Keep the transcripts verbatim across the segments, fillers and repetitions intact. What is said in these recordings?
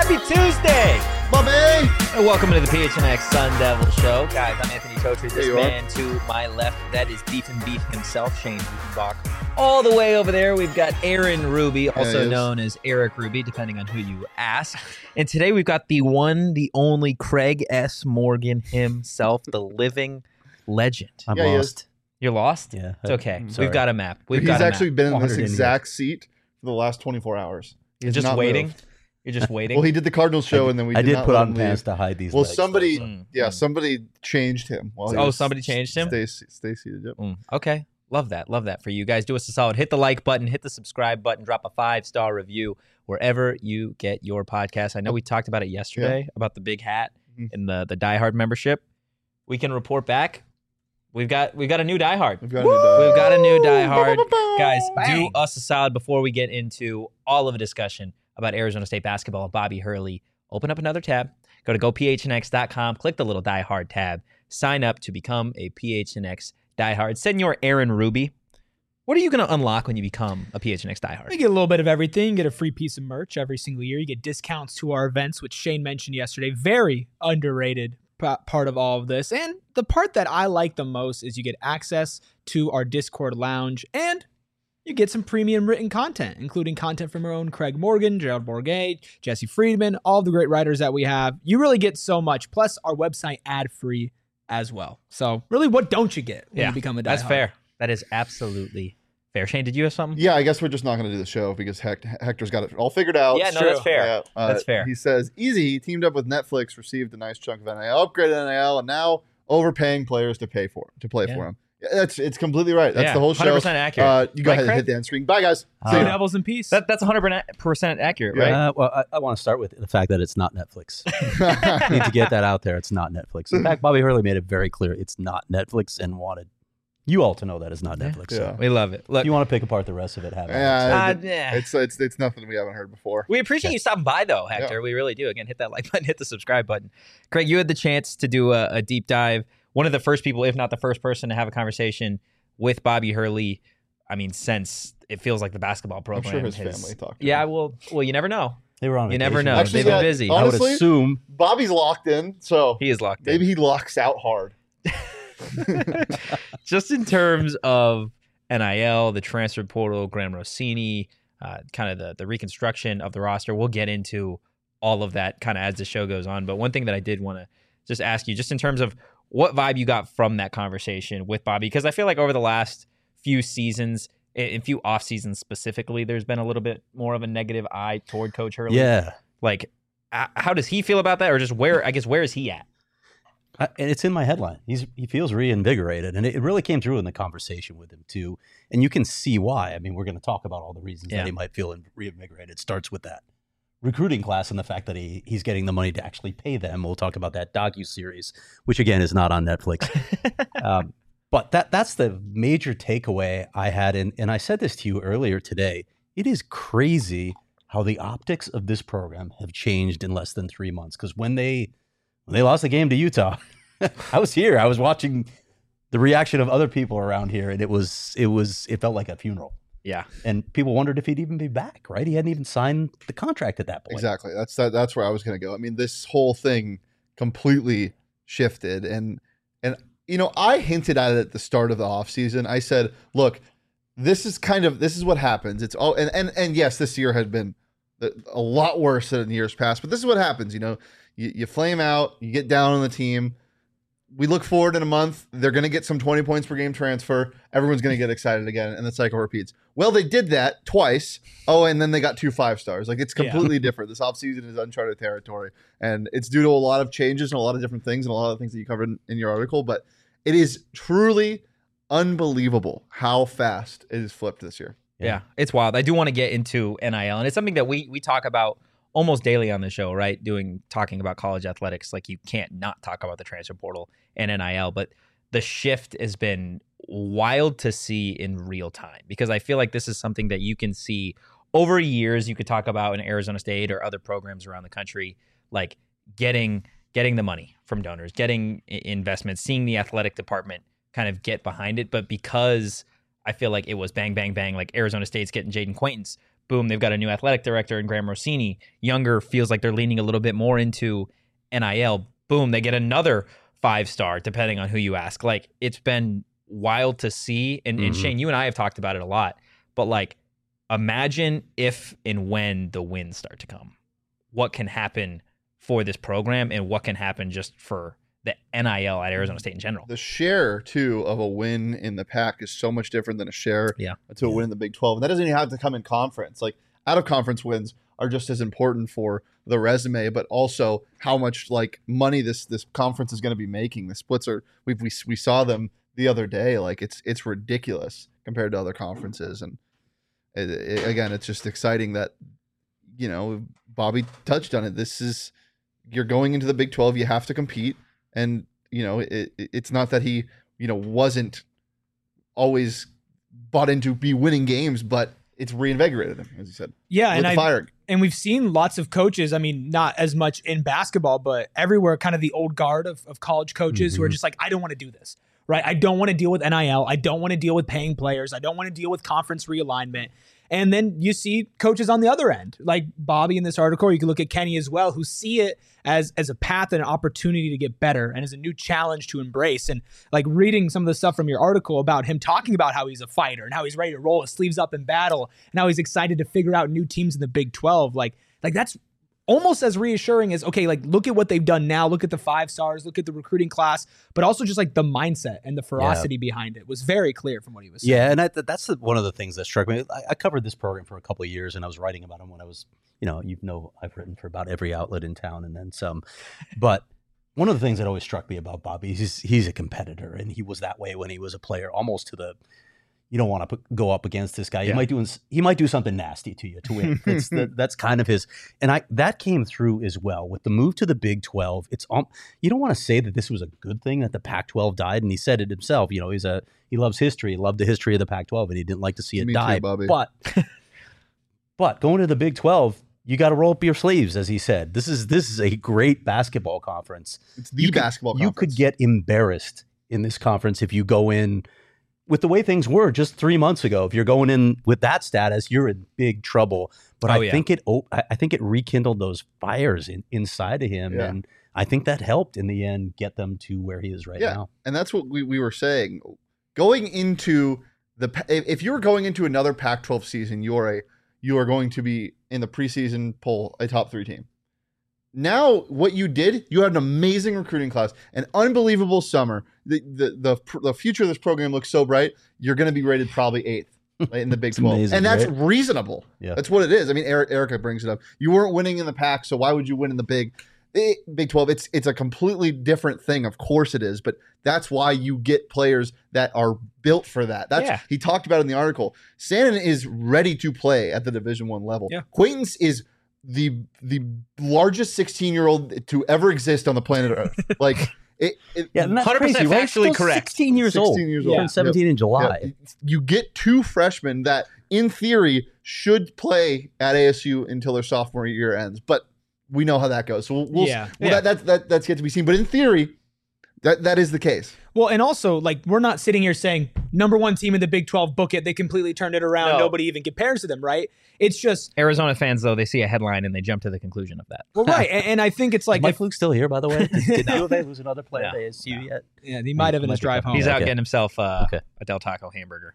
Happy Tuesday! Bobby! And welcome to the P H N X Sun Devil Show. Guys, I'm Anthony Totri. This man are. to my left, that is Beef and Beef himself, Shane Diefenbach. All the way over there, we've got Aaron Ruby, also yeah, known as Eric Ruby, depending on who you ask. And today we've got the one, the only Craig S. Morgan himself, the living legend. I'm Yeah, he lost. is. You're lost? Yeah. It's okay. Sorry. We've got a map. We've He's got a actually map. been in Wandered this in exact seat for the last twenty-four hours. You're He's just not waiting? moved. You're just waiting? Well, he did the Cardinals show, and then we I did, did not put let on him pants leave. to hide these Well, legs, somebody, though. Mm, yeah, mm. somebody changed him. While he Oh, was somebody changed him? Stay, stay seated. Yep. Mm, okay. Love that. Love that for you guys. Do us a solid. Hit the like button. Hit the subscribe button. Drop a five-star review wherever you get your podcast. I know we talked about it yesterday, about the big hat Mhm. and the, the Die Hard membership. We can report back. We've got we've got a new Die Hard. We've got a new die. We've got a new Die Hard. Guys, Bang. do us a solid before we get into all of a discussion about Arizona State basketball and Bobby Hurley. Open up another tab. Go to go P H N X dot com. Click the little Die Hard tab. Sign up to become a P H N X Die Hard. Send your Aaron Ruby. What are you going to unlock when you become a P H N X Die Hard? You get a little bit of everything. You get a free piece of merch every single year. You get discounts to our events, which Shane mentioned yesterday. Very underrated p- part of all of this. And the part that I like the most is you get access to our Discord lounge and you get some premium written content, including content from our own Craig Morgan, Gerald Bourget, Jesse Friedman, all the great writers that we have. You really get so much. Plus, our website ad-free as well. So, really, what don't you get when Yeah, you become a Die That's Hard? fair. That is absolutely fair. Shane, did you have something? Yeah, I guess we're just not going to do the show because Hect- Hector's got it all figured out. Yeah, no, that's fair. Yeah, uh, That's fair. He says, easy, he teamed up with Netflix, received a nice chunk of N I L, upgraded N I L, and now overpaying players to pay for to play Yeah. for him. Yeah, That's It's completely right. That's Yeah, the whole show. one hundred percent accurate. Uh, you go Right, ahead and Craig? hit the end screen. Bye, guys. Uh, See Two ya. devils in peace. That, that's one hundred percent accurate, Yeah. right? Uh, well, I, I want to start with the fact that it's not Netflix. I need to get that out there. It's not Netflix. In fact, Bobby Hurley made it very clear it's not Netflix and wanted you all to know that it's not Netflix. Yeah. So We love it. Look, if you want to pick apart the rest of it, have it. Yeah, uh, it- yeah. it's, it's it's nothing we haven't heard before. We appreciate you stopping by, though, Hector. Yeah. We really do. Again, hit that like button, hit the subscribe button. Craig, you had the chance to do a, a deep dive. One of the first people, if not the first person, to have a conversation with Bobby Hurley. I mean, since it feels like the basketball I'm program. sure his has- family talked to Yeah, him. well, well, you never know. They were on You never vacation. know. Actually, They've been yeah, busy. on- I would honestly- assume Bobby's locked in, so He is locked in. maybe he locks out hard. Just in terms of N I L, the transfer portal, Graham Rossini, uh, kind of the, the reconstruction of the roster. We'll get into all of that kind of as the show goes on. But one thing that I did want to just ask you, just in terms of what vibe you got from that conversation with Bobby, because I feel like over the last few seasons, in, in few off seasons specifically, there's been a little bit more of a negative eye toward Coach Hurley. yeah. Like, uh, how does he feel about that? Or just where, I guess, where is he at? I, and it's in my headline. He's he feels reinvigorated, and it, it really came through in the conversation with him too. And you can see why. I mean, we're going to talk about all the reasons Yeah. that he might feel in- reinvigorated. It starts with that recruiting class and the fact that he he's getting the money to actually pay them. We'll talk about that docu series, which again is not on Netflix. um, but that that's the major takeaway I had, and and I said this to you earlier today. It is crazy how the optics of this program have changed in less than three months. Because when they when they lost the game to Utah, I was here. I was watching the reaction of other people around here, and it was it was it felt like a funeral. Yeah. And people wondered if he'd even be back. Right? He hadn't even signed the contract at that point. Exactly. That's that. That's where I was going to go. I mean, this whole thing completely shifted, and and you know, I hinted at it at the start of the offseason. I said, look, this is kind of this is what happens. It's all and and and yes, this year had been a lot worse than in years past, but this is what happens. You know, you, you flame out, you get down on the team. We look forward in a month. They're going to get some twenty points per game transfer. Everyone's going to get excited again, and the cycle repeats. Well, they did that twice. Oh, and then they got two five stars. Like, it's completely different. This offseason is uncharted territory, and it's due to a lot of changes and a lot of different things and a lot of things that you covered in, in your article. But it is truly unbelievable how fast it has flipped this year. Yeah. Yeah. It's wild. I do want to get into N I L, and it's something that we we talk about almost daily on the show, right? Doing talking about college athletics, like you can't not talk about the transfer portal and N I L, but the shift has been wild to see in real time, because I feel like this is something that you can see over years. You could talk about in Arizona State or other programs around the country, like getting getting the money from donors, getting i- investments, seeing the athletic department kind of get behind it. But because I feel like it was bang, bang, bang, like Arizona State's getting Jaden Quaintance, Boom, they've got a new athletic director in Graham Rossini. Younger feels like they're leaning a little bit more into N I L. Boom, they get another five-star, depending on who you ask. Like, it's been wild to see. And, Mhm. and Shane, you and I have talked about it a lot. But, like, imagine if and when the wins start to come. What can happen for this program and what can happen just for the N I L at Arizona State in general. The share, too, of a win in the Pac is so much different than a share Yeah. to a win in the Big twelve. And that doesn't even have to come in conference. Like, out-of-conference wins are just as important for the resume, but also how much, like, money this this conference is going to be making. The splits are – we we we saw them the other day. Like, it's it's ridiculous compared to other conferences. And, it, it, again, it's just exciting that, you know, Bobby touched on it. This is – you're going into the Big twelve. You have to compete. And, you know, it, it's not that he, you know, wasn't always bought into be winning games, but it's reinvigorated him, as you said. Yeah, Lit and the I fire. and we've seen lots of coaches. I mean, not as much in basketball, but everywhere, kind of the old guard of, of college coaches Mm-hmm. who are just like, I don't want to do this, right? I don't want to deal with N I L. I don't want to deal with paying players. I don't want to deal with conference realignment. And then you see coaches on the other end, like Bobby in this article, or you can look at Kenny as well, who see it as as a path and an opportunity to get better and as a new challenge to embrace. And like reading some of the stuff from your article about him talking about how he's a fighter and how he's ready to roll his sleeves up in battle and how he's excited to figure out new teams in the Big twelve. Like, like that's almost as reassuring as, okay, like look at what they've done now. Look at the five stars, look at the recruiting class, but also just like the mindset and the ferocity behind it was very clear from what he was saying. Yeah, and I, that's the, one of the things that struck me. I, I covered this program for a couple of years, and I was writing about him when I was, you know, you know, I've written for about every outlet in town and then some. But one of the things that always struck me about Bobby is he's, he's a competitor, and he was that way when he was a player, almost to the, you don't want to put, go up against this guy. He Yeah. might do he might do something nasty to you to win. That's the, that's kind of his, and I that came through as well with the move to the Big twelve. It's um, you don't want to say that this was a good thing that the Pac twelve died, and he said it himself. You know, he's a he loves history, he loved the history of the Pac twelve, and he didn't like to see it Me too, die. Bobby. But but going to the Big twelve, you got to roll up your sleeves, as he said. This is this is a great basketball conference. It's the You could- basketball You conference. could get embarrassed in this conference if you go in with the way things were just three months ago. If you're going in with that status, you're in big trouble. But Oh, I yeah. think it oh, I I think it rekindled those fires in, inside of him, Yeah. and I think that helped in the end get them to where he is right Yeah. now. And that's what we, we were saying. Going into the Pa- if if you're going into another Pac twelve season, you're a you are going to be in the preseason poll a top three team. Now, what you did, you had an amazing recruiting class, an unbelievable summer. The the the, pr- the future of this program looks so bright. You're going to be rated probably eighth right, in the Big It's twelve, amazing, and that's right? reasonable. Yeah. That's what it is. I mean, Eric, Erica brings it up. You weren't winning in the Pac, so why would you win in the Big? eh, Big twelve? It's it's a completely different thing. Of course it is, but that's why you get players that are built for that. That's Yeah. he talked about it in the article. Sandin is ready to play at the Division One level. Yeah. Quaintance is the the largest sixteen year old to ever exist on the planet Earth. Like it, it Yeah, and that's one hundred percent crazy, right? factually Still correct. sixteen years old. sixteen years Turned old. seventeen in July. Yeah, you get two freshmen that, in theory, should play at A S U until their sophomore year ends, but we know how that goes. So we'll, we'll Yeah. well, Yeah. That, that that that's yet to be seen. But in theory, that that is the case. Well, and also, like, we're not sitting here saying number one team in the Big twelve, book it. They completely turned it around. No. Nobody even compares to them, right? It's just, Arizona fans, though, they see a headline and they jump to the conclusion of that. well, right. And, and I think it's like, Is Mike if, Fluke still here, by the way? Did, did U of A lose another player No. at A S U yet? yeah, he might have in Might his be drive tough. home. He's Yeah, out okay. getting himself uh, Okay. a Del Taco hamburger.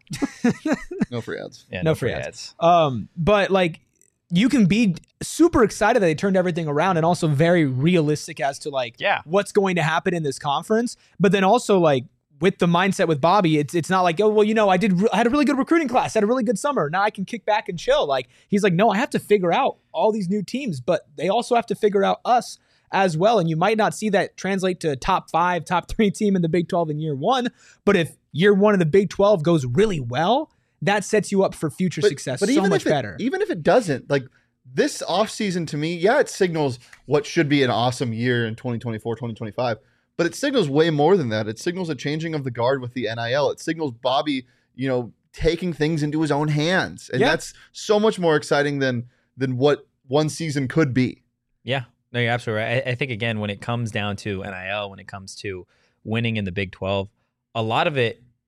No free ads. Yeah, No free ads. Um, but like, you can be super excited that they turned everything around and also very realistic as to like Yeah. what's going to happen in this conference. But then also like with the mindset with Bobby, it's it's not like, oh, well, you know, I did I had a really good recruiting class, had a really good summer. Now I can kick back and chill. Like he's like, no, I have to figure out all these new teams, but they also have to figure out us as well. And you might not see that translate to a top five, top three team in the Big twelve in year one. But if year one of the Big twelve goes really well, that sets you up for future success so much if it, better. Even if it doesn't, like this offseason to me, yeah, it signals what should be an awesome year in twenty twenty-four, twenty twenty-five. But it signals way more than that. It signals a changing of the guard with the N I L. It signals Bobby, you know, taking things into his own hands. And Yeah. that's so much more exciting than than what one season could be. Yeah, no, you're absolutely right. I, I think, again, when it comes down to N I L, when it comes to winning in the Big twelve, a lot of it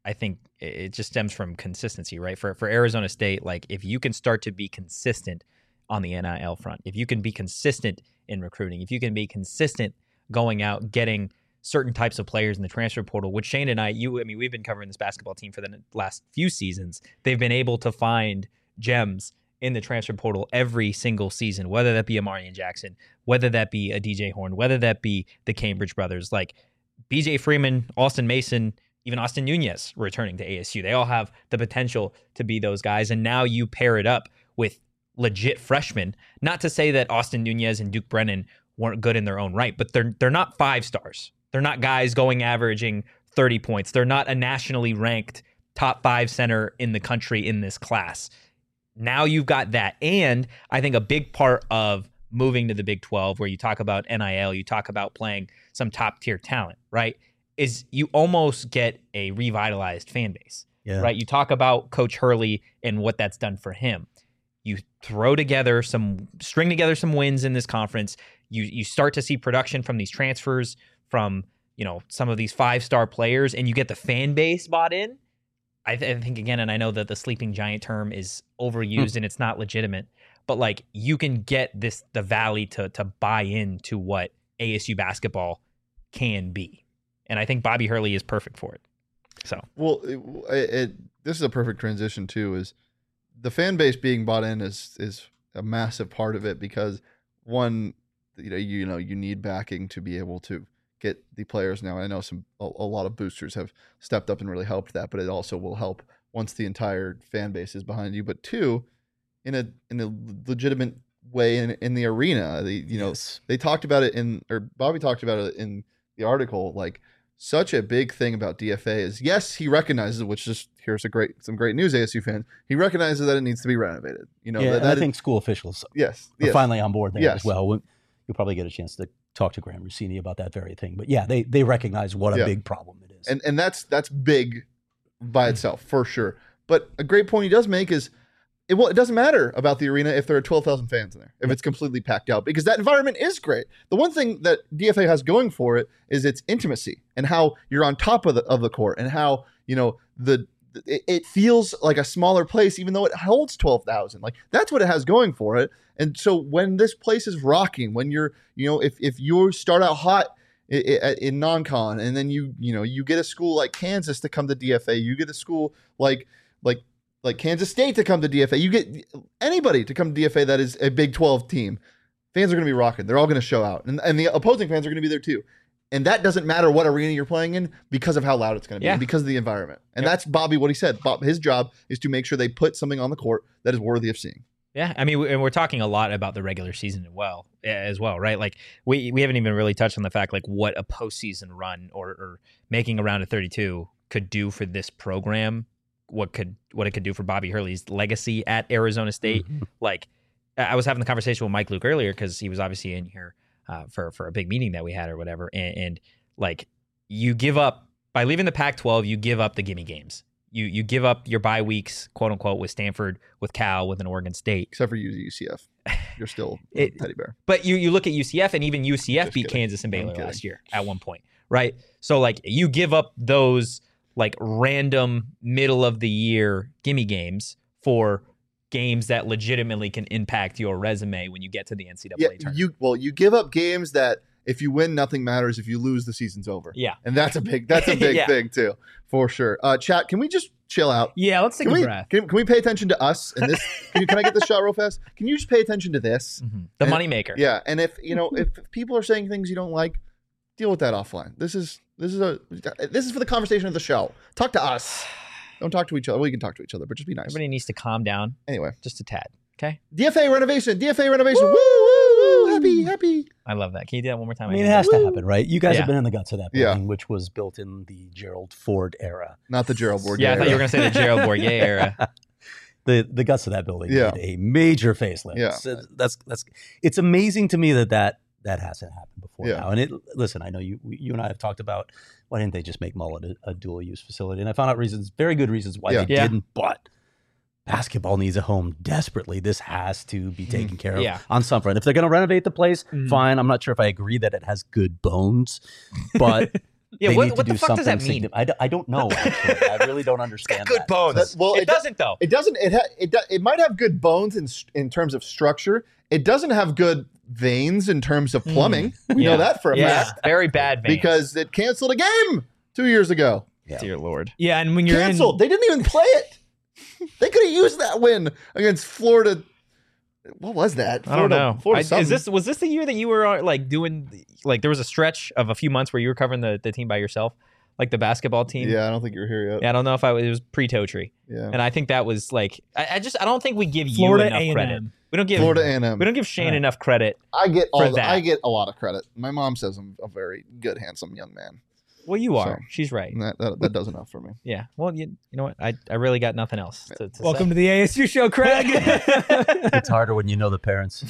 I think it just stems from consistency, right? For for Arizona State, like if you can start to be consistent on the N I L front, if you can be consistent in recruiting, if you can be consistent going out getting certain types of players in the transfer portal, which Shane and I, you, I mean, we've been covering this basketball team for the last few seasons. They've been able to find gems in the transfer portal every single season, whether that be a Marion Jackson, whether that be a D J Horn, whether that be the Cambridge brothers, like B J Freeman, Austin Mason, even Austin Nunez returning to A S U. They all have the potential to be those guys. And now you pair it up with legit freshmen. Not to say that Austin Nunez and Duke Brennan weren't good in their own right, but they're they're not five stars. They're not guys going averaging thirty points. They're not a nationally ranked top five center in the country in this class. Now you've got that. And I think a big part of moving to the Big twelve, where you talk about N I L, you talk about playing some top tier talent, right, is you almost get a revitalized fan base, Yeah. right? You talk about Coach Hurley and what that's done for him. You throw together some, string together some wins in this conference. You you start to see production from these transfers, from, you know, some of these five-star players, and you get the fan base bought in. I, th- I think, again, and I know that the sleeping giant term is overused and it's not legitimate, but like you can get this, the Valley to to buy into what A S U basketball can be. And I think Bobby Hurley is perfect for it. So, Well, it, it, this is a perfect transition too, is the fan base being bought in is is a massive part of it, because one, you know, you know, you need backing to be able to get the players now. I know some a, a lot of boosters have stepped up and really helped that, but it also will help once the entire fan base is behind you. But two, in a in a legitimate way in in the arena, the, you know, Yes. they talked about it in, or Bobby talked about it in the article, like such a big thing about D F A is, yes, he recognizes, which is, here's a great, some great news, A S U fan, he recognizes that it needs to be renovated. You know, yeah, that, and that I is- think school officials yes, are yes. finally on board there Yes. as well. We- You'll probably get a chance to talk to Graham Rossini about that very thing. But yeah, they they recognize what a Yeah. big problem it is. and and that's that's big by itself for sure. But a great point he does make is, it well, it doesn't matter about the arena if there are twelve thousand fans in there, if Yep. it's completely packed out, because that environment is great. The one thing that D F A has going for it is its intimacy and how you're on top of the of the court, and how, you know, the it, it feels like a smaller place even though it holds twelve thousand. Like that's what it has going for it. And so when this place is rocking, when you're, you know, if if you start out hot i- i- in non-con, and then you you know you get a school like Kansas to come to D F A, you get a school like like like Kansas State to come to D F A, you get anybody to come to D F A that is a Big twelve team, fans are going to be rocking. They're all going to show out, and and the opposing fans are going to be there too. And that doesn't matter what arena you're playing in, because of how loud it's going to be, Yeah. and because of the environment. And Yep. that's Bobby, what he said. Bob, his job is to make sure they put something on the court that is worthy of seeing. yeah, I mean, we- and we're talking a lot about the regular season as well, as well, right? Like we we haven't even really touched on the fact like what a postseason run or, or making a round of thirty-two could do for this program. What could what it could do for Bobby Hurley's legacy at Arizona State. Mhm. Like I I was having the conversation with Mike Luke earlier because he was obviously in here uh, for for a big meeting that we had or whatever, and, and like you give up by leaving the Pac twelve, you give up the gimme games. You you give up your bye weeks, quote unquote, with Stanford, with Cal, with an Oregon State. Except for U C F. You're still It- a teddy bear. But you you look at U C F, and even U C F Just beat kidding. Kansas and I'm Baylor kidding. last year at one point, right? So like you give up those like random middle of the year gimme games for games that legitimately can impact your resume when you get to the N C double Yeah, A tournament. you well, you give up games that if you win, nothing matters. If you lose, the season's over. Yeah. And that's a big that's a big Yeah. thing too, for sure. Uh, chat, can we just chill out? Yeah, let's take Can a we, breath. can, can we pay attention to us and this? Can, you, can I get this shot real fast? Can you just pay attention to this? Mhm. The And- moneymaker. Yeah, and if you know if people are saying things you don't like, deal with that offline. This is this is a this is for the conversation of the show. Talk to us. Don't talk to each other. Well, you can talk to each other, but just be nice. Everybody needs to calm down Anyway, just a tad. Okay. D F A renovation. D F A renovation. Woo woo woo! Happy happy. I love that. Can you do that one more time? I mean, it hate has that. to happen, right? You guys Yeah. have been in the guts of that Yeah. building, which was built in the Gerald Ford era. Not the Gerald Bourguet. Yeah, I thought you were era. going to say the Gerald Bourguet era. the the guts of that building Yeah. need a major facelift. Yeah. So that's that's it's amazing to me that that that hasn't happened before Yeah. now. And it listen, I know you you and I have talked about why didn't they just make Mullet a, a dual use facility, and I found out reasons, very good reasons why Yeah. they Yeah. didn't. But basketball needs a home desperately. This has to be taken care of Yeah. on some front. If they're going to renovate the place, Mhm. fine. I'm not sure if I agree that it has good bones, but Yeah, they what- need what to the do fuck does something that mean? significant. I, d- I don't know. Actually, I really don't understand. Good that. bones. That- well, it, it do- doesn't though. It doesn't. It ha- it do- it might have good bones in s- in terms of structure. It doesn't have good veins in terms of plumbing. We Yeah. know that for a Yeah, fact very bad veins. because it canceled a game two years ago. Yeah. Dear Lord. Yeah, and when you're Canceled. They didn't even play it. They could have used that win against Florida. What was that? I don't Florida- know. Florida I, is something. this was this the year that you were uh, like doing like there was a stretch of a few months where you were covering the, the team by yourself, like the basketball team? Yeah, I don't think you were here yet. Yeah, I don't know if I was, it was pre toe tree, Yeah. and I think that was like I, I just I don't think we give Florida you enough A and credit. M. We don't give Florida A and M. we don't give Shane Right. enough credit. I get for all the, that. I get a lot of credit. My mom says I'm a very good, handsome young man. Well, you are. So- She's right. And that, that that does enough for me. Yeah. Well, you, you know what? I, I really got nothing else to, to Welcome say. to the A S U show, Craig. It's harder when you know the parents.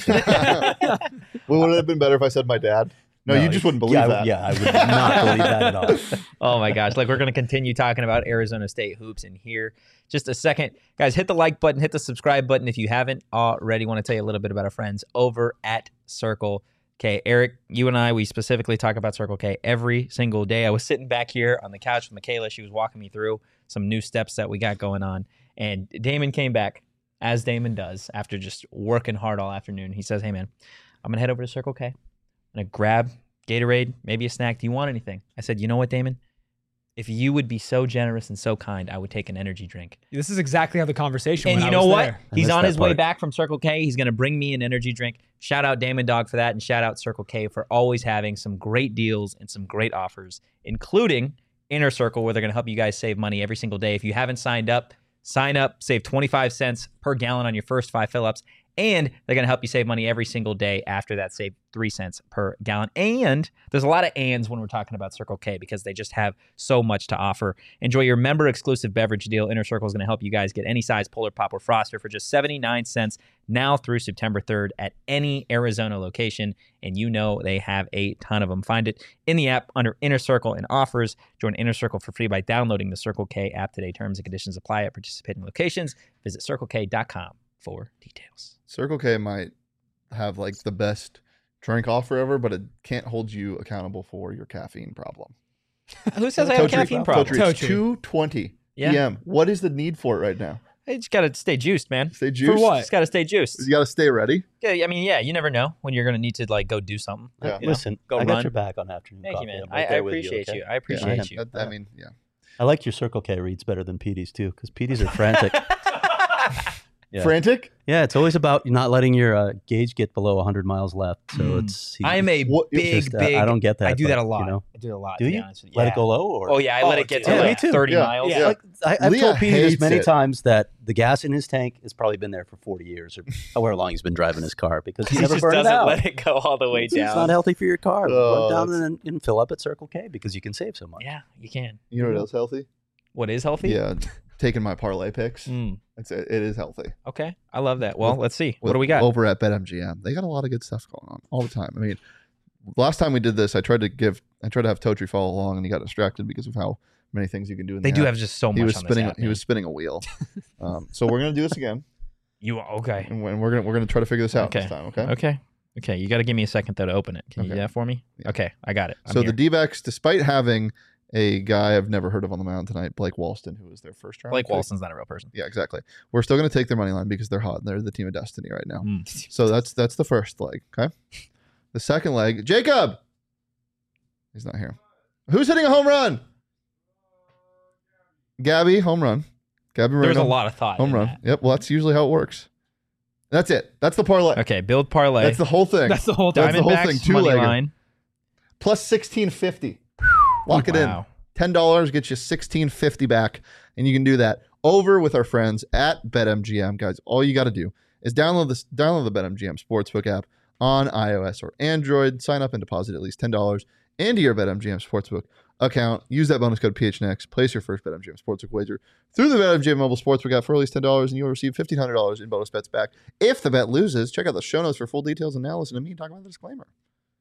Well, would it have been better if I said my dad? No, you just wouldn't believe yeah, I- that. Yeah, I would not believe that at all. Oh my gosh. Like we're going to continue talking about Arizona State hoops in here. Just a second. Guys, hit the like button, hit the subscribe button if you haven't already. Want to tell you a little bit about our friends over at Circle K. Eric, you and I, we specifically talk about Circle K every single day. I was sitting back here on the couch with Michaela. She was walking me through some new steps that we got going on. And Damon came back, as Damon does, after just working hard all afternoon. He says, hey, man, I'm going to head over to Circle K. I'm going to grab Gatorade, maybe a snack. Do you want anything? I said, you know what, Damon? If you would be so generous and so kind, I would take an energy drink. This is exactly how the conversation And went. you I know was what? there. I He's missed on that his way part. back from Circle K. He's going to bring me an energy drink. Shout out Damon Dog for that. And shout out Circle K for always having some great deals and some great offers, including Inner Circle, where they're going to help you guys save money every single day. If you haven't signed up, sign up, save twenty-five cents per gallon on your first five fill-ups. And they're going to help you save money every single day after that, save three cents per gallon. And there's a lot of ands when we're talking about Circle K because they just have so much to offer. Enjoy your member-exclusive beverage deal. Inner Circle is going to help you guys get any size Polar Pop or Froster for just seventy-nine cents now through September third at any Arizona location. And you know they have a ton of them. Find it in the app under Inner Circle and offers. Join Inner Circle for free by downloading the Circle K app today. Terms and conditions apply at participating locations. Visit circle k dot com for details. Circle K might have like the best drink offer ever, but it can't hold you accountable for your caffeine problem. Who says I have a Totri- caffeine problem? Totri, it's Totri. two twenty Yeah. p m. What is the need for it right now? You just gotta stay juiced, man. Stay juiced. what? Just gotta stay juiced. You got to stay ready. Yeah, I mean, yeah, you never know when you're gonna need to like go do something. Yeah. You know, Listen, go I got run. your back on afternoon Thank coffee. you, man. I'm I, right I there with appreciate you. okay? I appreciate Yeah, you. that- I mean, yeah. I like your Circle K reads better than P D's too, because P D's are frantic. Yeah. Frantic. Yeah, it's always about not letting your uh, gauge get below one hundred miles left. So Mm. it's. I am a What- it's big, just, uh, big. I don't get that. I do that but, a lot. You know, I do it a lot. do to be you honest with you. let Yeah. it go low, or Oh yeah, I let Oh, it get dude. to Yeah, like me too. thirty Yeah. miles. Yeah. Like, I, I've Leah told P D this hates many it. times that the gas in his tank has probably been there for forty years or however long he's been driving his car because he He never just burned it doesn't out. let it go all the way It's, it's down. not healthy for your car. Oh, Run down that's- and, and fill up at Circle K because you can save so much. Yeah, you can. You know what else healthy? What is healthy? Yeah, taking my parlay picks. Mm, It's it is healthy. okay, I love that. Well, With- let's see. What With- do we got? over at BetMGM? They got a lot of good stuff going on all the time. I mean, last time we did this, I tried to give, I tried to have Totri follow along, and he got distracted because of how many things you can do. In They the do app. have just so much. He was on spinning. This app, he man. was spinning a wheel. um, so we're gonna do this again, You okay? and we're gonna we're gonna try to figure this out Okay. this time. Okay. Okay. Okay. You got to give me a second though to open it. Can you Okay. do that for me? Yeah. Okay, I got it. I'm So here. the D-backs, despite having a guy I've never heard of on the mound tonight, Blake Walston, who was their first round. Blake pick. Walson's not a real person. Yeah, exactly. We're still gonna take their money line because they're hot and they're the team of destiny right now. Mm. So that's that's the first leg. Okay. The second leg, Jacob. He's not here. Who's hitting a home run? Gabby, home run. Gabby There's a Moreno, lot of thought. home in run. that. Yep. Well, that's usually how it works. That's it. That's the parlay. Okay, build parlay. That's the whole thing. That's the whole thing. That's the whole Diamondbacks, thing, two money legger. line. Plus sixteen fifty. Lock it in. Wow. ten dollars gets you sixteen fifty back, and you can do that over with our friends at BetMGM, guys. All you got to do is download this, download the BetMGM Sportsbook app on iOS or Android. Sign up and deposit at least ten dollars into your BetMGM Sportsbook account. Use that bonus code P H N X. Place your first BetMGM Sportsbook wager through the BetMGM mobile sportsbook app for at least ten dollars, and you'll receive fifteen hundred dollars in bonus bets back if the bet loses. Check out the show notes for full details, and now listen to me talk about the disclaimer.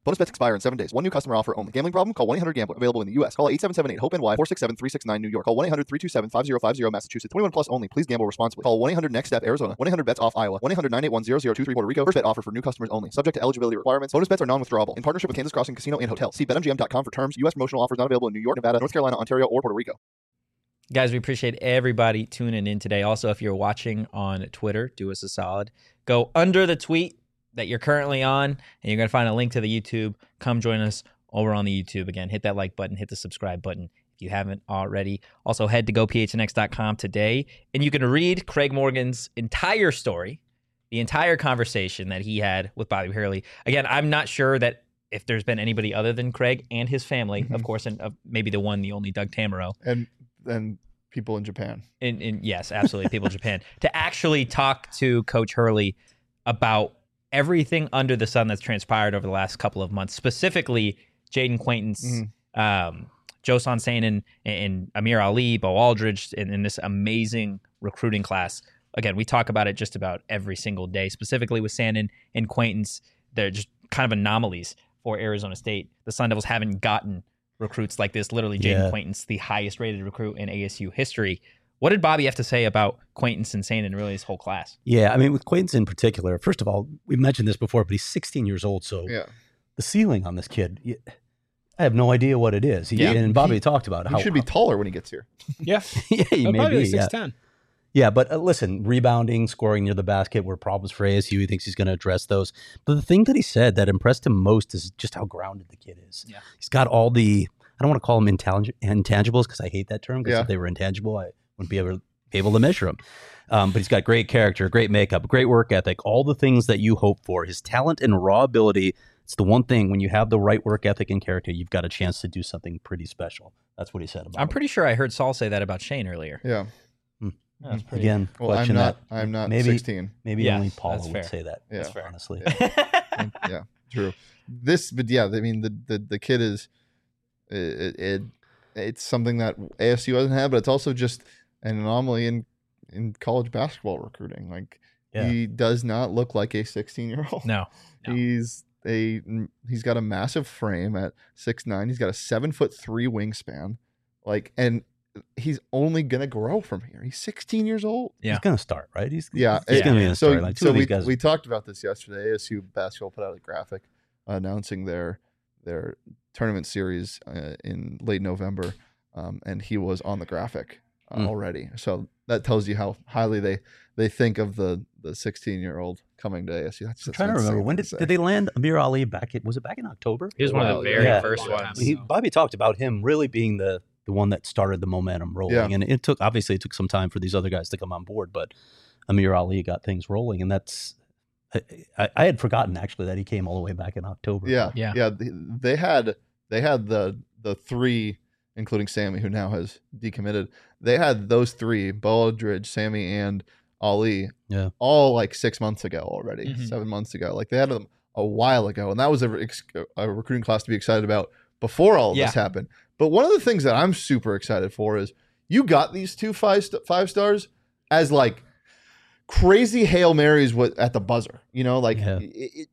Bonus bets expire in seven days. One new customer offer only. Gambling problem? Call one eight hundred gambler. Available in the U S. Call eight seven seven eight hope N Y four six seven three six nine New York. Call one eight hundred three two seven five zero five zero Massachusetts. twenty-one plus only. Please gamble responsibly. Call one eight hundred next step Arizona. one eight hundred bets off Iowa. one eight hundred nine eight one zero zero two three Puerto Rico. First bet offer for new customers only. Subject to eligibility requirements. Bonus bets are non-withdrawable. In partnership with Kansas Crossing Casino and Hotel. See bet M G M dot com for terms. U S promotional offers not available in New York, Nevada, North Carolina, Ontario, or Puerto Rico. Guys, we appreciate everybody tuning in today. Also, if you're watching on Twitter, do us a solid. Go under the tweet that you're currently on, and you're going to find a link to the YouTube. Come join us over on the YouTube. Again, hit that like button, hit the subscribe button if you haven't already. Also, head to go P H N X dot com today, and you can read Craig Morgan's entire story, the entire conversation that he had with Bobby Hurley. Again, I'm not sure that if there's been anybody other than Craig and his family, mm-hmm. of course, and uh, maybe the one, the only Doug Tamaro. And and people in Japan. In, in, yes, absolutely, people in Japan. To actually talk to Coach Hurley about everything under the sun that's transpired over the last couple of months, specifically Jaden Quaintance, mm-hmm. um, Josan Sainin, and, and Amir Ali, Bo Aldridge, in, in this amazing recruiting class. Again, we talk about it just about every single day, specifically with Sainin and Quaintance. They're just kind of anomalies for Arizona State. The Sun Devils haven't gotten recruits like this. Literally, Jaden yeah. Quaintance, the highest rated recruit in A S U history. What did Bobby have to say about Quaintance and Sainin and really his whole class? Yeah, I mean, with Quaintance in particular, first of all, we mentioned this before, but he's sixteen years old, so yeah. the ceiling on this kid, I have no idea what it is. He, yeah. And Bobby he, talked about he how... He should be taller when he gets here. Yeah. yeah, he well, may probably be. like six ten. Yeah. yeah, but uh, listen, rebounding, scoring near the basket were problems for A S U. He thinks he's going to address those. But the thing that he said that impressed him most is just how grounded the kid is. Yeah. He's got all the... I don't want to call them intang- intangibles because I hate that term, because yeah. if they were intangible, I wouldn't be able to... able to measure him. Um, but he's got great character, great makeup, great work ethic, all the things that you hope for. His talent and raw ability, it's the one thing, when you have the right work ethic and character, you've got a chance to do something pretty special. That's what he said about I'm him. pretty sure I heard Saul say that about Shane earlier. Yeah. Hmm. That's pretty Again, well, I'm not, that. I'm not maybe, sixteen. Maybe yeah, only Paula would fair. say that, yeah. that's fair. honestly. Yeah. yeah, true. This, but yeah, I mean, the, the, the kid is, it, it it's something that A S U hasn't had, but it's also just an anomaly in in college basketball recruiting. Like yeah. he does not look like a sixteen year old. No, no. He's a he's got a massive frame at six nine. He's got a seven foot three wingspan. Like, and he's only gonna grow from here. He's sixteen years old. Yeah. He's gonna start, right? He's yeah, he's it, gonna be in a so, story. Like two so of these we, guys. we talked about this yesterday. A S U basketball put out a graphic uh, announcing their their tournament series uh, in late November, um, and he was on the graphic uh, mm. already. So that tells you how highly they they think of the the sixteen year old coming to A S U. That's, I'm trying to remember, when did did they land Amir Ali back? At, was it back in October? He was one of the very yeah. first ones. He, Bobby talked about him really being the the one that started the momentum rolling, yeah. and it took obviously it took some time for these other guys to come on board, but Amir Ali got things rolling, and that's. I, I had forgotten actually that he came all the way back in October. Yeah, yeah, yeah. They had they had the the three, including Sammy, who now has decommitted. They had those three: Bo Aldridge, Sammy, and Ali. Yeah, all like six months ago already, mm-hmm. seven months ago. Like they had them a while ago, and that was a, a recruiting class to be excited about before all of yeah. this happened. But one of the things that I'm super excited for is you got these two five st- five stars as like crazy Hail Marys at the buzzer, you know, like yeah. it, it,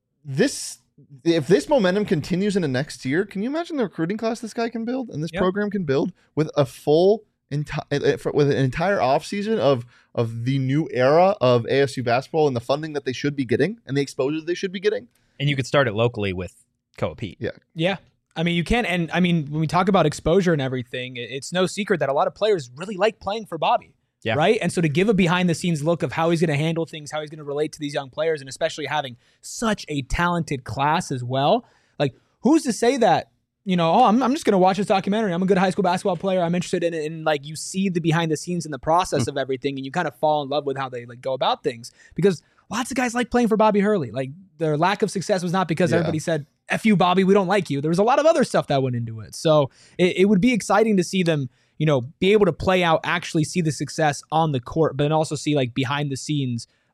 this, if this momentum continues into next year, can you imagine the recruiting class this guy can build and this yep. program can build with a full, enti- with an entire offseason of, of the new era of A S U basketball and the funding that they should be getting and the exposure they should be getting. And you could start it locally with Koa Pete. Yeah. Yeah. I mean, you can. And I mean, when we talk about exposure and everything, it's no secret that a lot of players really like playing for Bobby. Yeah. Right. And so to give a behind the scenes look of how he's going to handle things, how he's going to relate to these young players, and especially having such a talented class as well. Like, who's to say that, you know, oh, I'm, I'm just going to watch this documentary. I'm a good high school basketball player. I'm interested in it. And like, you see the behind the scenes and the process mm. of everything, and you kind of fall in love with how they like go about things, because lots of guys like playing for Bobby Hurley. Like, their lack of success was not because yeah. everybody said, F you, Bobby, we don't like you. There was a lot of other stuff that went into it. So it, it would be exciting to see them, you know, be able to play out, actually see the success on the court, but then also see like behind the scenes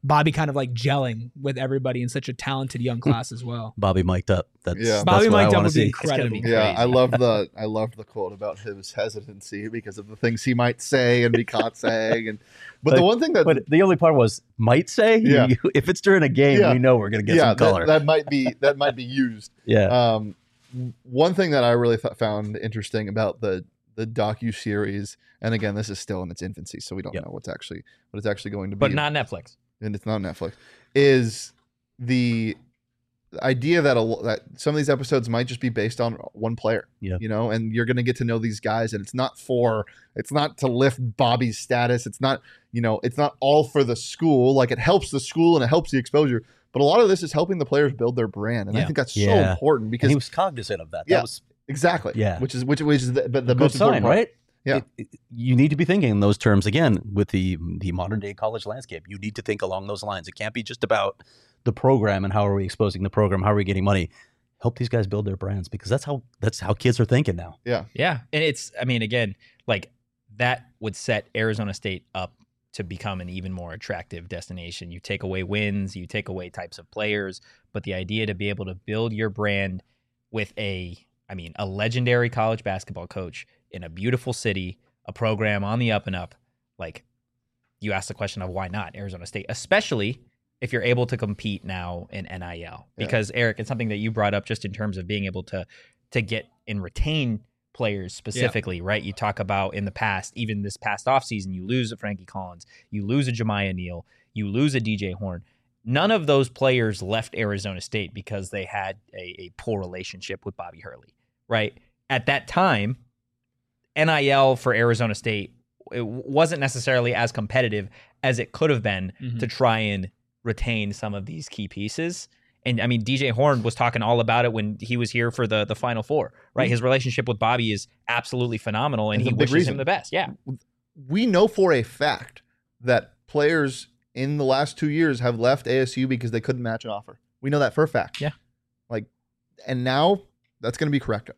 Bobby kind of like gelling with everybody in such a talented young class as well. Bobby mic'd up. That's, Yeah. that's Bobby what I mic'd up wanna would be see. incredible. It's gonna be Yeah, I crazy. love the I loved the quote about his hesitancy because of the things he might say and be caught saying. And but But- the one thing that But the only part was might say. Yeah. You- if it's during a game, Yeah. we know we're gonna get yeah some color. that, that might be that might be used. yeah. Um, one thing that I really th- found interesting about the the docu series, and again, this is still in its infancy, so we don't Yep. know what's actually what it's actually going to be. But not Netflix. and it's not Netflix, is the idea that a, lo- that some of these episodes might just be based on one player. Yeah. You know, and you're going to get to know these guys, and it's not for it's not to lift Bobby's status. It's not, you know, it's not all for the school. Like, it helps the school and it helps the exposure, but a lot of this is helping the players build their brand, and I Yeah. think that's so Yeah. important And because he was cognizant of that. Yeah. That was exactly, Yeah. which is which which is the, but the a good most important sign, part. right? Yeah. It- it- you need to be thinking in those terms again with the the modern day college landscape. You need to think along those lines. It can't be just about the program and how are we exposing the program, how are we getting money. Help these guys build their brands because that's how that's how kids are thinking now. Yeah, Yeah. And it's, I mean, again, like that would set Arizona State up to become an even more attractive destination. You take away wins, you take away types of players, but the idea to be able to build your brand with a, I mean, a legendary college basketball coach in a beautiful city, a program on the up and up, like you ask the question of why not Arizona State, especially if you're able to compete now in N I L. Yeah. Because Eric, it's something that you brought up just in terms of being able to to get and retain players specifically, right? You talk about in the past, even this past offseason, you lose a Frankie Collins, you lose a Jemiah Neal, you lose a D J Horn. None of those players left Arizona State because they had a, a poor relationship with Bobby Hurley, right? At that time, N I L for Arizona State, it wasn't necessarily as competitive as it could have been Mhm. to try and retain some of these key pieces. And I mean, D J Horn was talking all about it when he was here for the the Final Four, right? Mhm. His relationship with Bobby is absolutely phenomenal, and That's he a big wishes reason. him the best. Yeah, we know for a fact that players in the last two years have left A S U because they couldn't match an offer. We know that for a fact. Yeah. Like, and now that's going to be corrected.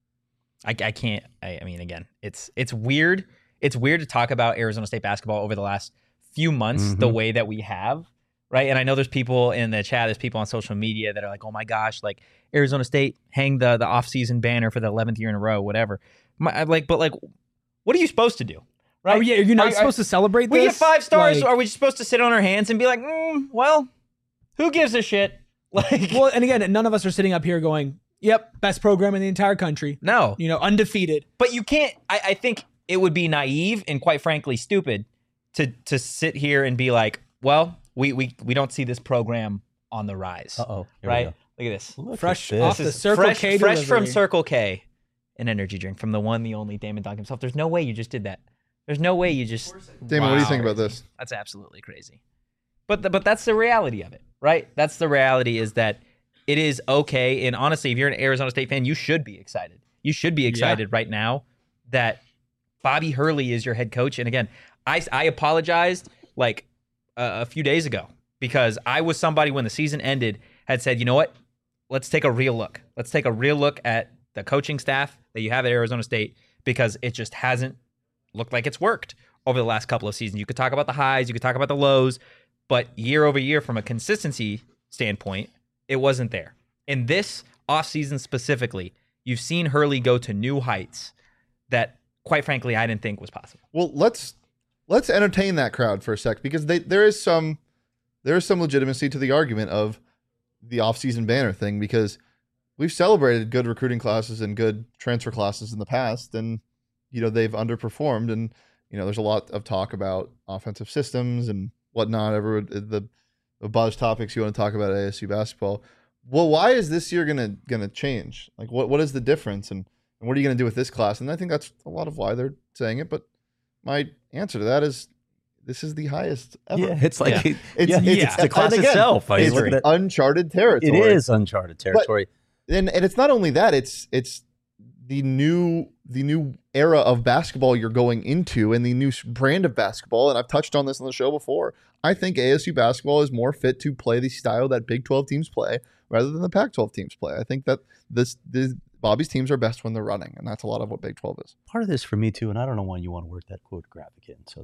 I, I can't. I, I mean, again, it's it's weird. It's weird to talk about Arizona State basketball over the last few months the Mhm. way that we have, right? And I know there's people in the chat, there's people on social media that are like, "Oh my gosh, like Arizona State hang the the offseason banner for the eleventh year in a row, whatever." My, I like, but like, what are you supposed to do, right? Oh yeah, you're not Are- supposed to celebrate We this. get five stars. Like- Are we just supposed to sit on our hands and be like, mm, well, who gives a shit? Like, well, and again, none of us are sitting up here going, "Yep, best program in the entire country." no. You know, undefeated. But you can't. I, I think it would be naive and quite frankly stupid to to sit here and be like, well, we we we don't see this program on the rise, Uh oh. right? Look at this. Look Fresh at off this. the This is Circle fresh, K fresh from delivery. Circle K, an energy drink from the one, the only Damon Dog himself. There's no way you just did that. There's no way you just. Damon, what do you Wow. think about this? That's absolutely crazy. But the, but that's the reality of it, right? That's the reality is that it is okay. And honestly, if you're an Arizona State fan, you should be excited. You should be excited right now that Bobby Hurley is your head coach. And again, I, I apologized like uh, a few days ago because I was somebody when the season ended had said, you know what? Let's take a real look. Let's take a real look at the coaching staff that you have at Arizona State because it just hasn't looked like it's worked over the last couple of seasons. You could talk about the highs, you could talk about the lows, but year over year from a consistency standpoint, it wasn't there. In this offseason specifically, you've seen Hurley go to new heights that, quite frankly, I didn't think was possible. Well, let's let's entertain that crowd for a sec because they, there is some there is some legitimacy to the argument of the offseason banner thing because we've celebrated good recruiting classes and good transfer classes in the past, and you know they've underperformed, and you know there's a lot of talk about offensive systems and whatnot. Everyone the the buzz topics you want to talk about at A S U basketball. Well, why is this year gonna gonna change? Like, what what is the difference, and, and what are you gonna do with this class? And I think that's a lot of why they're saying it. But my answer to that is, this is the highest ever. Yeah, it's like Yeah. it- It's, yeah, it's, it's the class and again, itself. I mean, It's look at it. uncharted territory. It is uncharted territory. and and it's not only that. It's it's the new the new era of basketball you're going into, and the new s- brand of basketball. And I've touched on this on the show before. I think A S U basketball is more fit to play the style that Big twelve teams play rather than the Pac twelve teams play. I think that this, this Bobby's teams are best when they're running, and that's a lot of what Big twelve is. Part of this for me too, and I don't know why you want to work that quote graphic in. So that's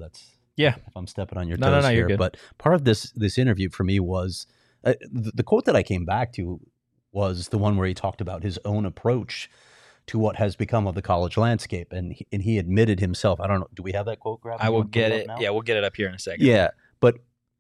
Yeah. If I'm stepping on your No, no, toes no, you're here, good. but part of this this interview for me was uh, the, the quote that I came back to was the one where he talked about his own approach to what has become of the college landscape, and he, and he admitted himself. I don't know. Do we have that quote, Grab? I You will wanna put get up it. now? Yeah, we'll get it up here in a second. Yeah, but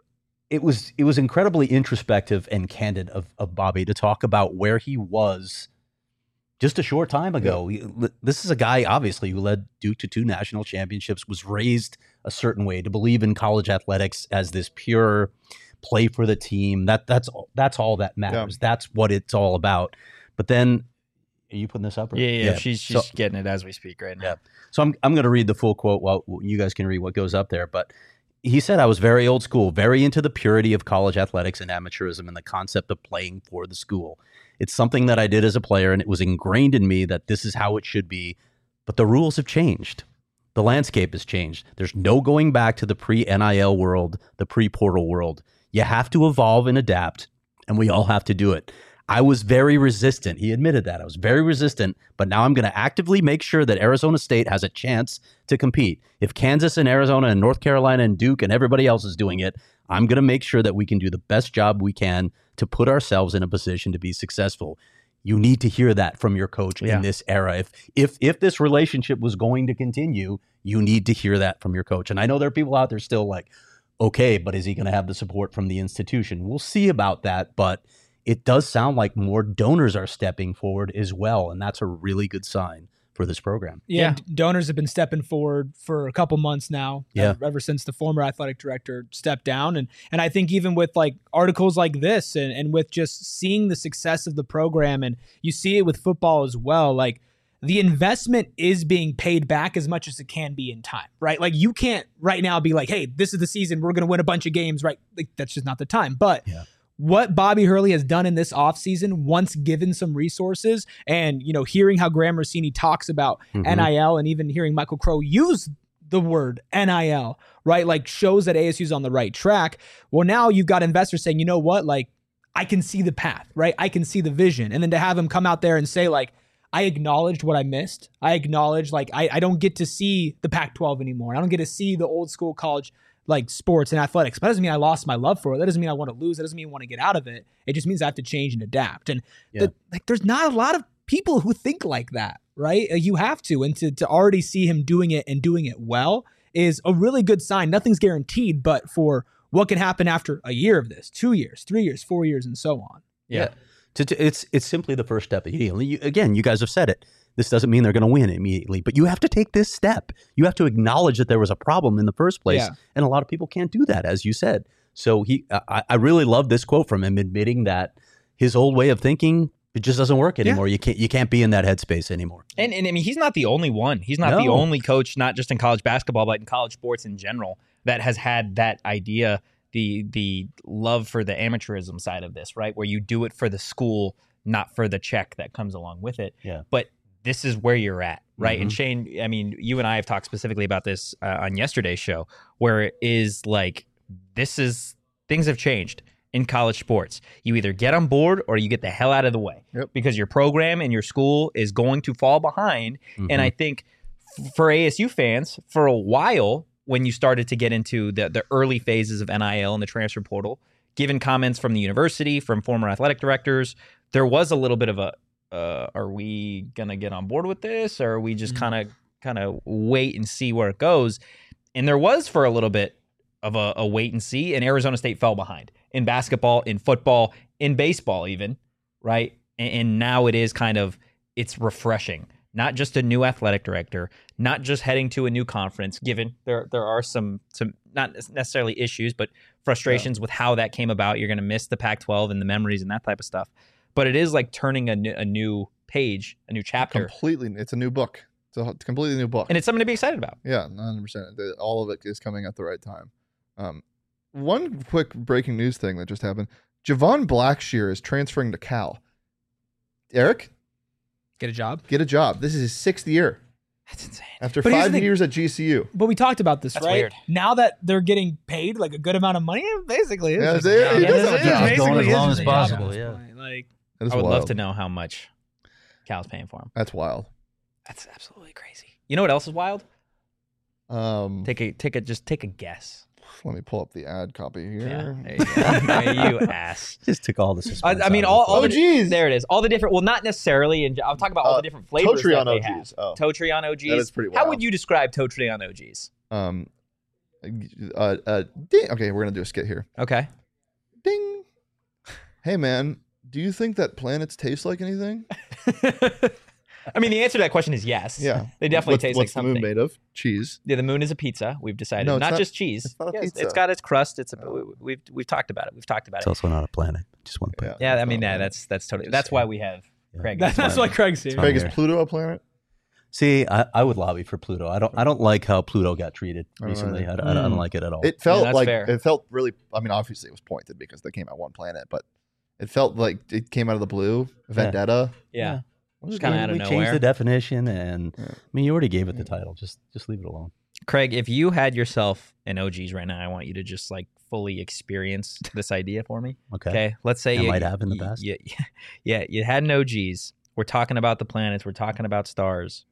it was it was incredibly introspective and candid of, of Bobby to talk about where he was just a short time ago. He- This is a guy, obviously, who led Duke to two national championships, was raised a certain way to believe in college athletics as this pure play for the team. That that's all- that's all that matters. That's what it's all about. But then, are you putting this up? Or? Yeah, yeah. She's she's So- getting it as we speak right now. Yeah. So I'm I'm going to read the full quote while you guys can read what goes up there. But he said, I was very old school, very into the purity of college athletics and amateurism and the concept of playing for the school. It's something that I did as a player, and it was ingrained in me that this is how it should be. But the rules have changed. The landscape has changed. There's no going back to the pre-N I L world, the pre-portal world. You have to evolve and adapt, and we all have to do it. I was very resistant. He admitted that. I was very resistant, but now I'm going to actively make sure that Arizona State has a chance to compete. If Kansas and Arizona and North Carolina and Duke and everybody else is doing it, I'm going to make sure that we can do the best job we can to put ourselves in a position to be successful. You need to hear that from your coach Yeah. in this era. If if if this relationship was going to continue, you need to hear that from your coach. And I know there are people out there still like, okay, but is he going to have the support from the institution? We'll see about that, but it does sound like more donors are stepping forward as well, and that's a really good sign for this program. Yeah, Yeah. d- donors have been stepping forward for a couple months now. Yeah. ever, ever since the former athletic director stepped down, and and I think even with like articles like this, and and with just seeing the success of the program, and you see it with football as well, like the investment is being paid back as much as it can be in time, right? Like you can't right now be like, hey, this is the season, we're going to win a bunch of games, right? Like that's just not the time. But Yeah. what Bobby Hurley has done in this offseason, once given some resources, and you know, hearing how Graham Rossini talks about Mhm. N I L, and even hearing Michael Crow use the word N I L, right? Like shows that A S U's on the right track. Well, now you've got investors saying, you know what? Like I can see the path, right? I can see the vision. And then to have him come out there and say like, I acknowledged what I missed. I acknowledged like, I, I don't get to see the Pac twelve anymore. I don't get to see the old school college like sports and athletics. But that doesn't mean I lost my love for it. That doesn't mean I want to lose. That doesn't mean I want to get out of it. It just means I have to change and adapt. And Yeah. the, like, there's not a lot of people who think like that, right? Uh, You have to, and to to already see him doing it and doing it well is a really good sign. Nothing's guaranteed, but for what can happen after a year of this, two years, three years, four years, and so on. Yeah. To, to, it's it's simply the first step. You, you, again, you guys have said it. This doesn't mean they're going to win immediately, but you have to take this step. You have to acknowledge that there was a problem in the first place, Yeah. and a lot of people can't do that, as you said. So he, I, I really love this quote from him, admitting that his old way of thinking it just doesn't work anymore. You can't you can't be in that headspace anymore. And, and I mean, he's not the only one. He's not the No. only coach, not just in college basketball, but in college sports in general, that has had that idea, the the love for the amateurism side of this, right? Where you do it for the school, not for the check that comes along with it. Yeah. But this is where you're at, right? Mm-hmm. And Shane, I mean, you and I have talked specifically about this uh, on yesterday's show, where it is like, this is, things have changed in college sports. You either get on board or you get the hell out of the way. Yep. Because your program and your school is going to fall behind. Mm-hmm. And I think f- for A S U fans, for a while, when you started to get into the, the early phases of N I L and the transfer portal, given comments from the university, from former athletic directors, there was a little bit of a, uh, are we gonna get on board with this, or are we just Mhm. kind of kind of wait and see where it goes? And there was for a little bit of a, a wait and see, and Arizona State fell behind in basketball, in football, in baseball, even, right? And, and now it is kind of, it's refreshing. Not just a new athletic director, not just heading to a new conference, given there there are some some not necessarily issues, but frustrations with how that came about. You're going to miss the Pac twelve and the memories and that type of stuff. But it is like turning a new, a new page, a new chapter, Completely, it's a new book. It's a completely new book. and it's something to be excited about. Yeah, one hundred percent. The- All of it is coming at the right time. Um, one quick breaking news thing that just happened. Javon Blackshear is transferring to Cal. Eric, Get a job. get a job. This is his sixth year That's insane. after But here's five the thing. years at G C U. But we talked about this, That's right? weird. Now that they're getting paid like a good amount of money, it basically is Yeah, just it- a job. it Yeah, does it have a is job. basically Going as is long just as a job at possible, this yeah. point. Like, That is I would wild. love to know how much Cal's paying for him. That's wild. That's absolutely crazy. You know what else is wild? Um, Take a take a just take a guess. let me pull up the ad copy Yeah, here. there you go. There you ass. Just took all the I, suspense. I mean, out of all, it. all Oh, the geez. there it is. All the different. Well, not necessarily. And I'll talk about all Uh, the different flavors Totri that on they O have. Gs. Oh, Totri on O Gs. that is pretty How wild. would you describe Totri on O Gs? Um, uh, uh, ding. Okay, we're gonna do a skit here. Okay. Ding. Hey man, do you think that planets taste like anything? I mean, the answer to that question is yes. Yeah, They definitely what's, taste what's like the moon something. made of? Cheese. Yeah, the moon is a pizza. We've decided. No, it's not, not- just cheese. it's not a Yes, pizza. It's got its crust. It's a, Oh. we- we've we've talked about it. We've talked about It's it. also not a planet. Just one planet. Yeah, I it's mean, not yeah, a planet. that's that's totally. Just That's saying. why we have Yeah. Craig. That's, that's why Craig's here. Fine. Craig, is here. Pluto a planet? See, I, I would lobby for Pluto. I don't. I don't like how Pluto got treated I don't recently. I, either. I, I don't Mm. like it at all. It felt that's like fair. it felt really. I mean, obviously it was pointed because they came out one planet, but it felt like it came out of the blue. Vendetta. Yeah. We- Just kinda we- out of we nowhere. changed the definition, and Yeah. I mean, you already gave it the title. Just just leave it alone. Craig, if you had yourself an O Gs right now, I want you to just like fully experience this idea for me. Okay. Okay. Let's say That you, might have in the you- past. you- yeah, you had an O Gs. We're talking about the planets. We're talking about stars.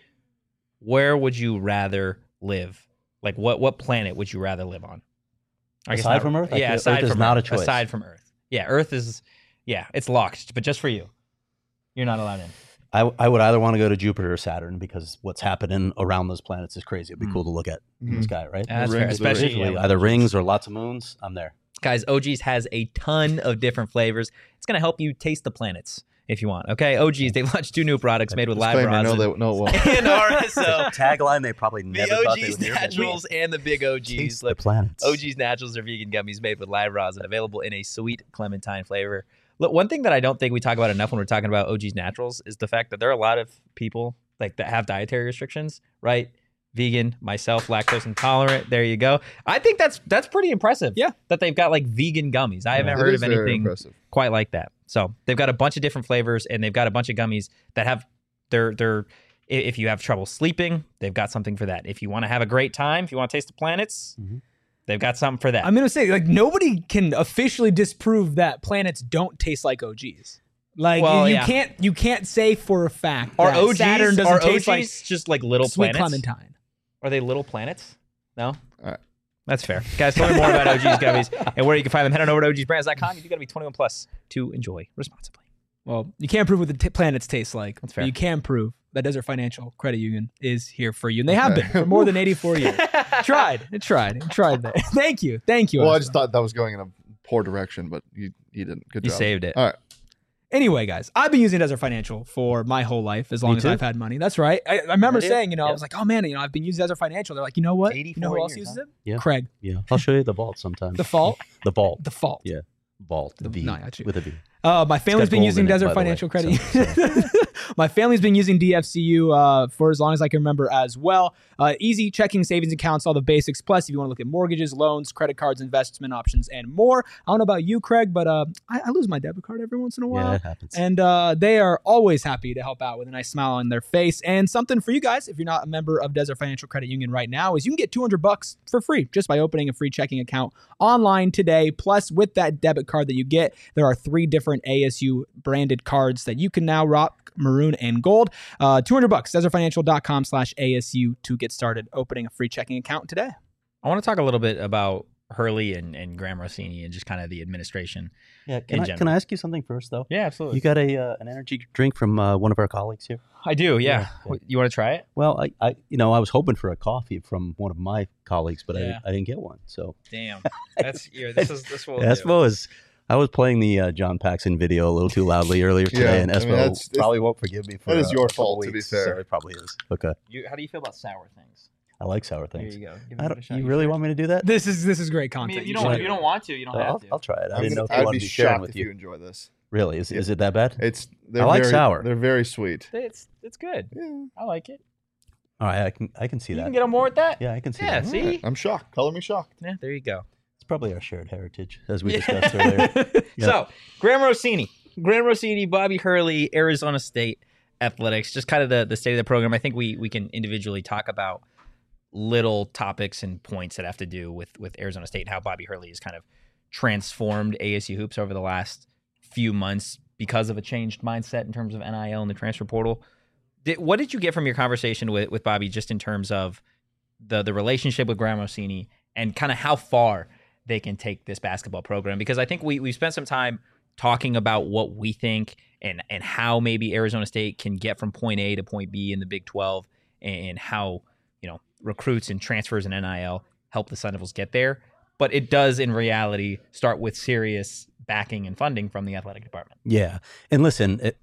Where would you rather live? Like, what what planet would you rather live on? I guess Aside not- from Earth? I Yeah, feel aside Earth is from not a Earth. choice. Aside from Earth. Yeah, Earth is. Yeah, it's locked, but just for you. You're not allowed in. I, I would either want to go to Jupiter or Saturn because what's happening around those planets is crazy. It'd be Mm. cool to look at in the Mhm. sky, right? Yeah, that's The fair. rings, the Especially rings. yeah, Usually when- either rings or lots of moons. I'm there. Guys, O Gs has a ton of different flavors. It's going to help you taste the planets if you want. Okay, O Gs, they've launched two new products made with live Disclaimer, no, rosin they, no, it won't. and R S O. Tagline they probably The never thought they O Gs would hear. Naturals and the big O Gs. Taste the Look, planets. O Gs Naturals are vegan gummies made with live rosin, available in a sweet clementine flavor. Look, one thing that I don't think we talk about enough when we're talking about O Gs Naturals is the fact that there are a lot of people like that have dietary restrictions, right? Vegan, myself, lactose intolerant. There you go. I think that's that's pretty impressive. Yeah. that they've got like vegan gummies. I haven't It heard is of very anything impressive. quite like that. So they've got a bunch of different flavors, and they've got a bunch of gummies that have they're they're. i- If you have trouble sleeping, they've got something for that. If you want to have a great time, if you want to taste the planets, Mhm. they've got something for that. I'm gonna say like nobody can officially disprove that planets don't taste like O Gs. Like Well, you, you yeah. can't you can't say for a fact Are that O Gs Saturn doesn't are taste O Gs like just like little sweet planets? clementine. Are they little planets? No. All right. That's fair. Guys, tell me more about O Gs gummies and where you can find them. Head on over to O Gs brands dot com. You do got to be twenty-one plus to enjoy responsibly. Well, you can't prove what the t- planets taste like. That's but fair. You can prove that Desert Financial Credit Union is here for you, and they have Okay. been for more than eighty-four years. tried, it tried, it tried that. Thank you, thank you. Well, I Oscar. just thought that was going in a poor direction, but you you didn't. Good You job. saved it. All right. Anyway, guys, I've been using Desert Financial for my whole life, as long Me as too. I've had money. That's right. I, I remember Yeah, saying, you know, I yeah. was like, oh man, you know, I've been using Desert Financial. They're like, you know what? You know eighty-four who else years, uses huh? it? Yeah. Craig. Yeah, I'll show you the vault sometime. The fault. The vault. The fault. Yeah. Vault. The V. No, I got you. With a V. Uh, my family's been gold using in it, Desert by the way, Financial Credit so- Union. My family's been using D F C U uh, for as long as I can remember as well. Uh, easy checking, savings accounts, all the basics. Plus, if you want to look at mortgages, loans, credit cards, investment options, and more. I don't know about you, Craig, but uh, I, I lose my debit card every once in a while. Yeah, it happens. And uh, they are always happy to help out with a nice smile on their face. And something for you guys, if you're not a member of Desert Financial Credit Union right now, is you can get two hundred bucks for free just by opening a free checking account online today. Plus, with that debit card that you get, there are three different A S U branded cards that you can now rock, maroon and gold. Uh, two hundred bucks, desertfinancial.com slash ASU to get started opening a free checking account today. I want to talk a little bit about Hurley and, and Graham Rossini and just kind of the administration. yeah, in can I, general. can I ask you something first, though? Yeah, absolutely. You got a uh, an energy drink from uh, one of our colleagues here? I do, yeah. Yeah, yeah. You want to try it? Well, I, I, you know, I was hoping for a coffee from one of my colleagues, but Yeah. I, I didn't get one. So Damn. That's here. This is this will yeah, Espo is. I was playing the uh, John Paxson video a little too loudly earlier today, Yeah, and I mean, Espo that's- probably won't forgive me for that is uh, your a couple fault, to be weeks, fair. So it probably is. Okay, You, how do you feel about sour things? I like sour Here things. you go. Give I it a don't, shot. you really sure? want me to do that? This is this is great I content. mean, you should don't. do You it. don't want to. You don't I'll, have to. I'll try it. I I'm didn't know gonna- if you I'd wanted be to be sharing shocked with if you you. enjoy this. Really? Is, Yeah. is it that bad? It's they're I like very, sour. They're very sweet. It's it's good. Yeah. I like it. All right, I can I can see You that. can get on board with that. yeah, I can see Yeah, that. see? All right, I'm shocked. Color me shocked. Yeah, there you go. It's probably our shared heritage, as we Yeah. discussed earlier. Yeah. So, Graham Rossini, Graham Rossini, Bobby Hurley, Arizona State Athletics, just kind of the, the state of the program. I think we we can individually talk about little topics and points that have to do with, with Arizona State and how Bobby Hurley has kind of transformed A S U hoops over the last few months because of a changed mindset in terms of N I L and the transfer portal. Did, what did you get from your conversation with, with Bobby just in terms of the the relationship with Graham Rossini and kind of how far they can take this basketball program. Because I think we we spent some time talking about what we think and and how maybe Arizona State can get from point A to point B in the Big twelve, and how, you know, recruits and transfers and N I L help the Sun Devils get there. But it does, in reality, start with serious backing and funding from the athletic department. Yeah. And listen, it,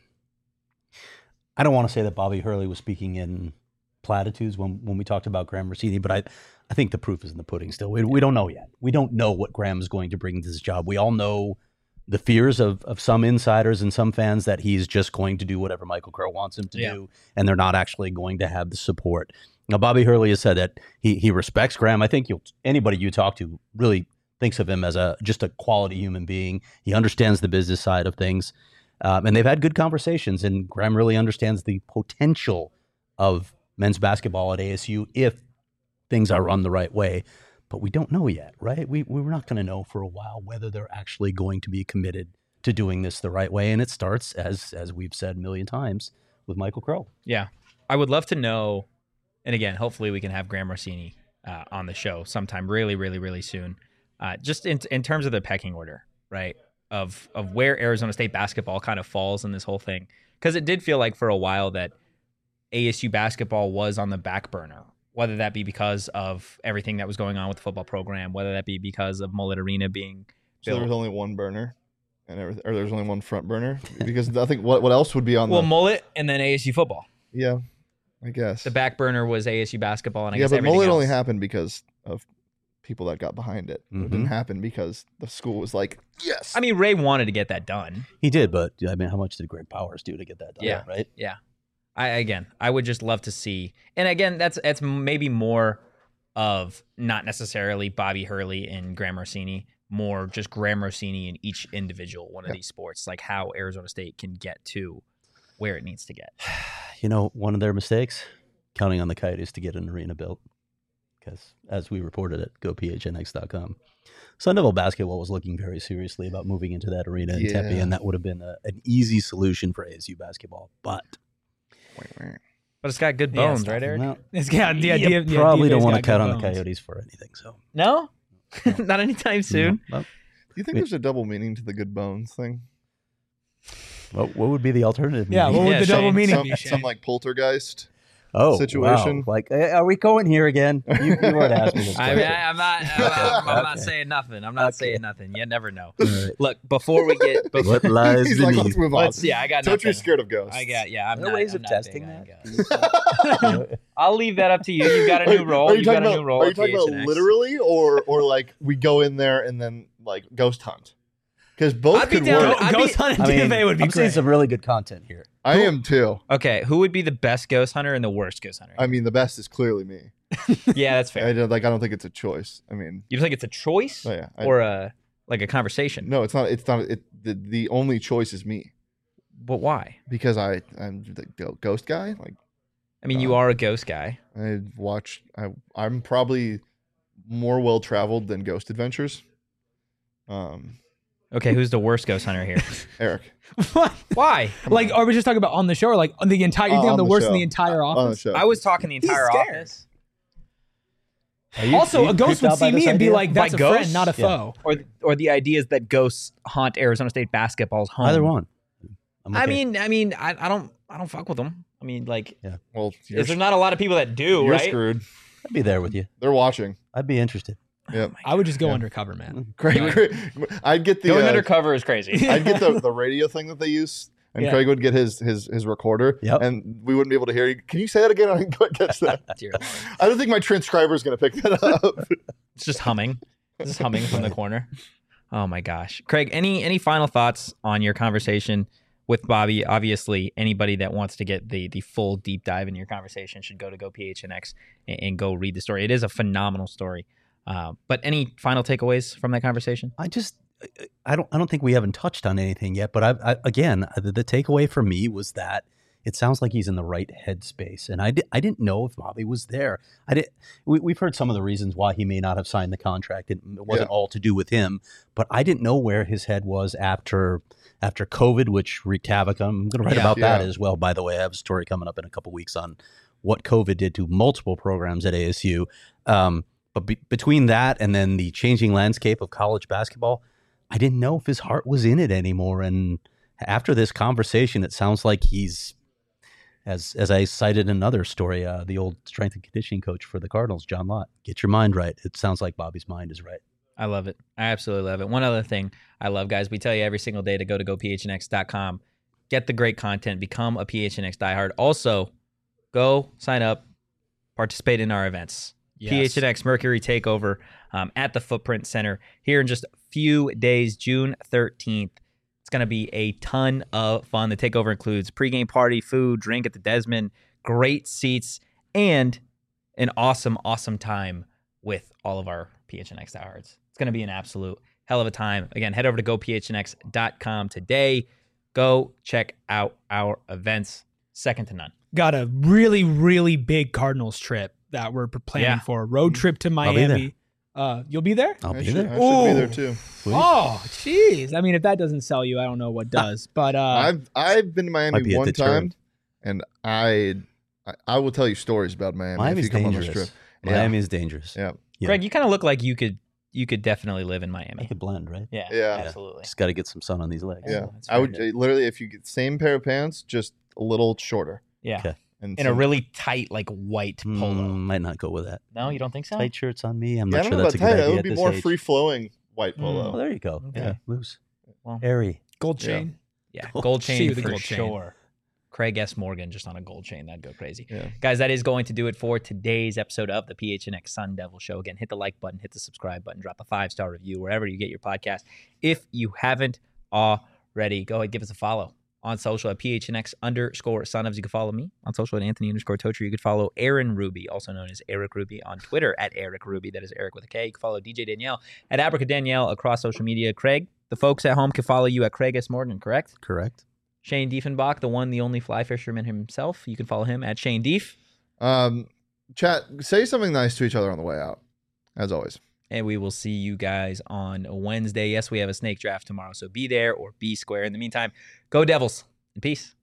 I don't want to say that Bobby Hurley was speaking in platitudes when, when we talked about Graham Rossini, but I, I think the proof is in the pudding still. We, we don't know yet. We don't know what Graham is going to bring to this job. We all know the fears of, of some insiders and some fans that he's just going to do whatever Michael Crow wants him to Yeah. do, and they're not actually going to have the support. Now, Bobby Hurley has said that he he respects Graham. I think you'll, anybody you talk to really thinks of him as a just a quality human being. He understands the business side of things, um, and they've had good conversations, and Graham really understands the potential of men's basketball at A S U if things are run the right way. But we don't know yet, right? We, we're not going to know for a while whether they're actually going to be committed to doing this the right way. And it starts, as as we've said a million times, with Michael Crow. Yeah. I would love to know, and again, hopefully we can have Graham Rossini uh, on the show sometime really, really, really soon. Uh, just in in terms of the pecking order, right, of of where Arizona State basketball kind of falls in this whole thing. Because it did feel like for a while that A S U basketball was on the back burner, whether that be because of everything that was going on with the football program, whether that be because of Mullet Arena being So there built. was only one burner, and everything, or there's only one front burner because I think what what else would be on Well, the Mullet and then A S U football. yeah, I guess The back burner was A S U basketball, and I yeah, guess but everything Mullet else. only happened because of people that got behind it. It Mhm. didn't happen because the school was like, yes. I mean, Ray wanted to get that done. He did, but I mean, how much did Greg Powers do to get that done? Yeah. Right? Yeah. I again, I would just love to see, and again, that's that's maybe more of not necessarily Bobby Hurley and Graham Rossini, more just Graham Rossini in each individual one of Yeah. these sports, like how Arizona State can get to where it needs to get. You know, one of their mistakes, counting on the Coyotes to get an arena built. Because as we reported at go p h n x dot com, Sun Devil basketball was looking very seriously about moving into that arena in Tempe, Yeah. and that would have been a, an easy solution for A S U basketball. But But it's got good Yeah, bones, it's right, Eric? well, It's got the you idea. yeah, probably D F A's don't want to got cut good on the bones. Coyotes for anything. So No, not anytime soon. Well, Do you think there's a double meaning to the good bones thing? what, what would be the alternative? Yeah, meaning? what would Yeah, the double Shane, meaning Some, be? some Shane? like poltergeist. oh, situation. wow. Like, eh, are we going here again? You, you weren't asking this I question. mean, I, I'm not. I'm, I'm, I'm not Okay. saying nothing. I'm not Okay. saying nothing. You never know. All right. Look, before we get, before, What lies He's like, beneath? let's move on. let's yeah, I got Tochi's nothing. scared of ghosts. I got yeah. I'm Are there not, ways I'm of not testing big on that? ghosts. I'll leave that up to you. You've got a new Are- role. Are you You've got talking a about, new role. Are you at talking about P H N X. literally, or or like we go in there and then like ghost hunt? Because both I'd be could down- work. I'd be- Ghost Hunt I and D mean, F A would be I'm seeing great. some really good content here. I am too. Okay, who would be the best ghost hunter and the worst ghost hunter? I mean, the best is clearly me. yeah, that's I fair. don't like. I don't think it's a choice. I mean, You think it's a choice oh yeah. I, or a like a conversation? no, it's not. It's not. It the, the only choice is me But why? because I I'm the go- ghost guy. Like I mean, you Uh, are a ghost guy. I watch. I I'm probably more well traveled than Ghost Adventures. Um, Okay, who's the worst ghost hunter here? Eric. What? Why? Like, are we just talking about on the show, or like on the entire? You Uh, think I'm on the the worst in show. the entire on the office? show. I was talking the entire scared. office. Are you- Also, are a you ghost creeped would out by see me this and be idea? like, "That's By a friend, ghosts? not a Yeah. foe." Or or the idea is that ghosts haunt Arizona State basketball's home. Either one. I'm I okay. mean, I mean, I, I don't I don't fuck with them. I mean, like, Well, you're, is there not a lot of people that do, you're right? screwed. I'd be there with you. They're watching. I'd be interested. Yep. I would just go Yeah. undercover, man. Craig, Craig- I'd get the Going uh, undercover is crazy. I'd get the, the radio thing that they use, and Yeah. Craig would get his his his recorder, Yep. and we wouldn't be able to hear you. Can you say that again? I didn't quite catch that. Dear Lord. I don't think my transcriber is going to pick that up. It's just humming. It's just humming from the corner. Oh my gosh, Craig. Any any final thoughts on your conversation with Bobby? Obviously, anybody that wants to get the the full deep dive in your conversation should go to go P H N X and, and go read the story. It is a phenomenal story. Uh, but any final takeaways from that conversation? I just, I don't, I don't think we haven't touched on anything yet. But I, I again, the, the takeaway for me was that it sounds like he's in the right headspace, and I, di- I didn't know if Bobby was there. I did. We, we've heard some of the reasons why he may not have signed the contract. It, it wasn't Yeah. all to do with him, but I didn't know where his head was after after COVID, which wreaked havoc. I'm going to write Yeah. about that Yeah. as well. By the way, I have a story coming up in a couple weeks on what COVID did to multiple programs at A S U. Um, but be- between that and then the changing landscape of college basketball, I didn't know if his heart was in it anymore. And after this conversation, it sounds like he's, as as I cited in another story, uh, the old strength and conditioning coach for the Cardinals, John Lott. Get your mind right. It sounds like Bobby's mind is right. I love it. I absolutely love it. One other thing I love, guys, we tell you every single day to go to go p h n x dot com, get the great content, become a P H N X diehard. Also, go sign up, participate in our events. Yes. P H N X Mercury Takeover um, at the Footprint Center here in just a few days, June thirteenth. It's going to be a ton of fun. The takeover includes pregame party, food, drink at the Desmond, great seats, and an awesome, awesome time with all of our P H N X diehards. It's going to be an absolute hell of a time. Again, head over to go p h n x dot com today. Go check out our events. Second to none. Got a really, really big Cardinals trip that we're planning Yeah. for. Road trip to be Miami. Uh, you'll be there? I'll I be should, there. I should be there Ooh. too. Sweet. Oh, jeez. I mean, if that doesn't sell you, I don't know what does. But uh, I've I've been to Might Miami be a one deterrent. time, and I, I I will tell you stories about Miami Miami's if you come on dangerous. this trip. Miami is dangerous. Yeah, Yeah. Greg, you kind of look like you could you could definitely live in I Miami. could blend, right? Yeah, Yeah. absolutely. Just got to get some sun on these legs. yeah. Oh, that's I would very uh, literally, if you get same pair of pants, just a little shorter, Yeah, Okay. and in a some- really tight, like white polo. Mm, might not go with that. No, you don't think so? Tight shirts on me. I'm Yeah, I not don't sure know that's a about good tight. idea It would at be this more age. free flowing white Mm. polo. Oh, there you go. Okay. Yeah, loose, Well, airy. gold Yeah. chain. yeah, Gold gold chain. chain See the for gold chain. sure. Craig S. Morgan just on a gold chain. That'd go crazy. Yeah. Guys, that is going to do it for today's episode of the P H N X Sun Devil Show. Again, hit the like button, hit the subscribe button, drop a five-star review wherever you get your podcast. If you haven't already, go ahead, give us a follow on social at P H N X underscore Sun Devs. You can follow me on social at Anthony underscore Tocher. You can follow Aaron Ruby, also known as Eric Ruby, on Twitter at Eric Ruby. That is Eric with a K. You can follow D J Danielle at Abrica Danielle across social media. Craig, the folks at home can follow you at Craig S. Morgan, correct? Correct. Shane Diefenbach, the one, the only fly fisherman himself. You can follow him at Shane Dief. Um, chat, say something nice to each other on the way out, as always. And we will see you guys on Wednesday. Yes, we have a snake draft tomorrow, so be there or be square. In the meantime, go Devils and peace.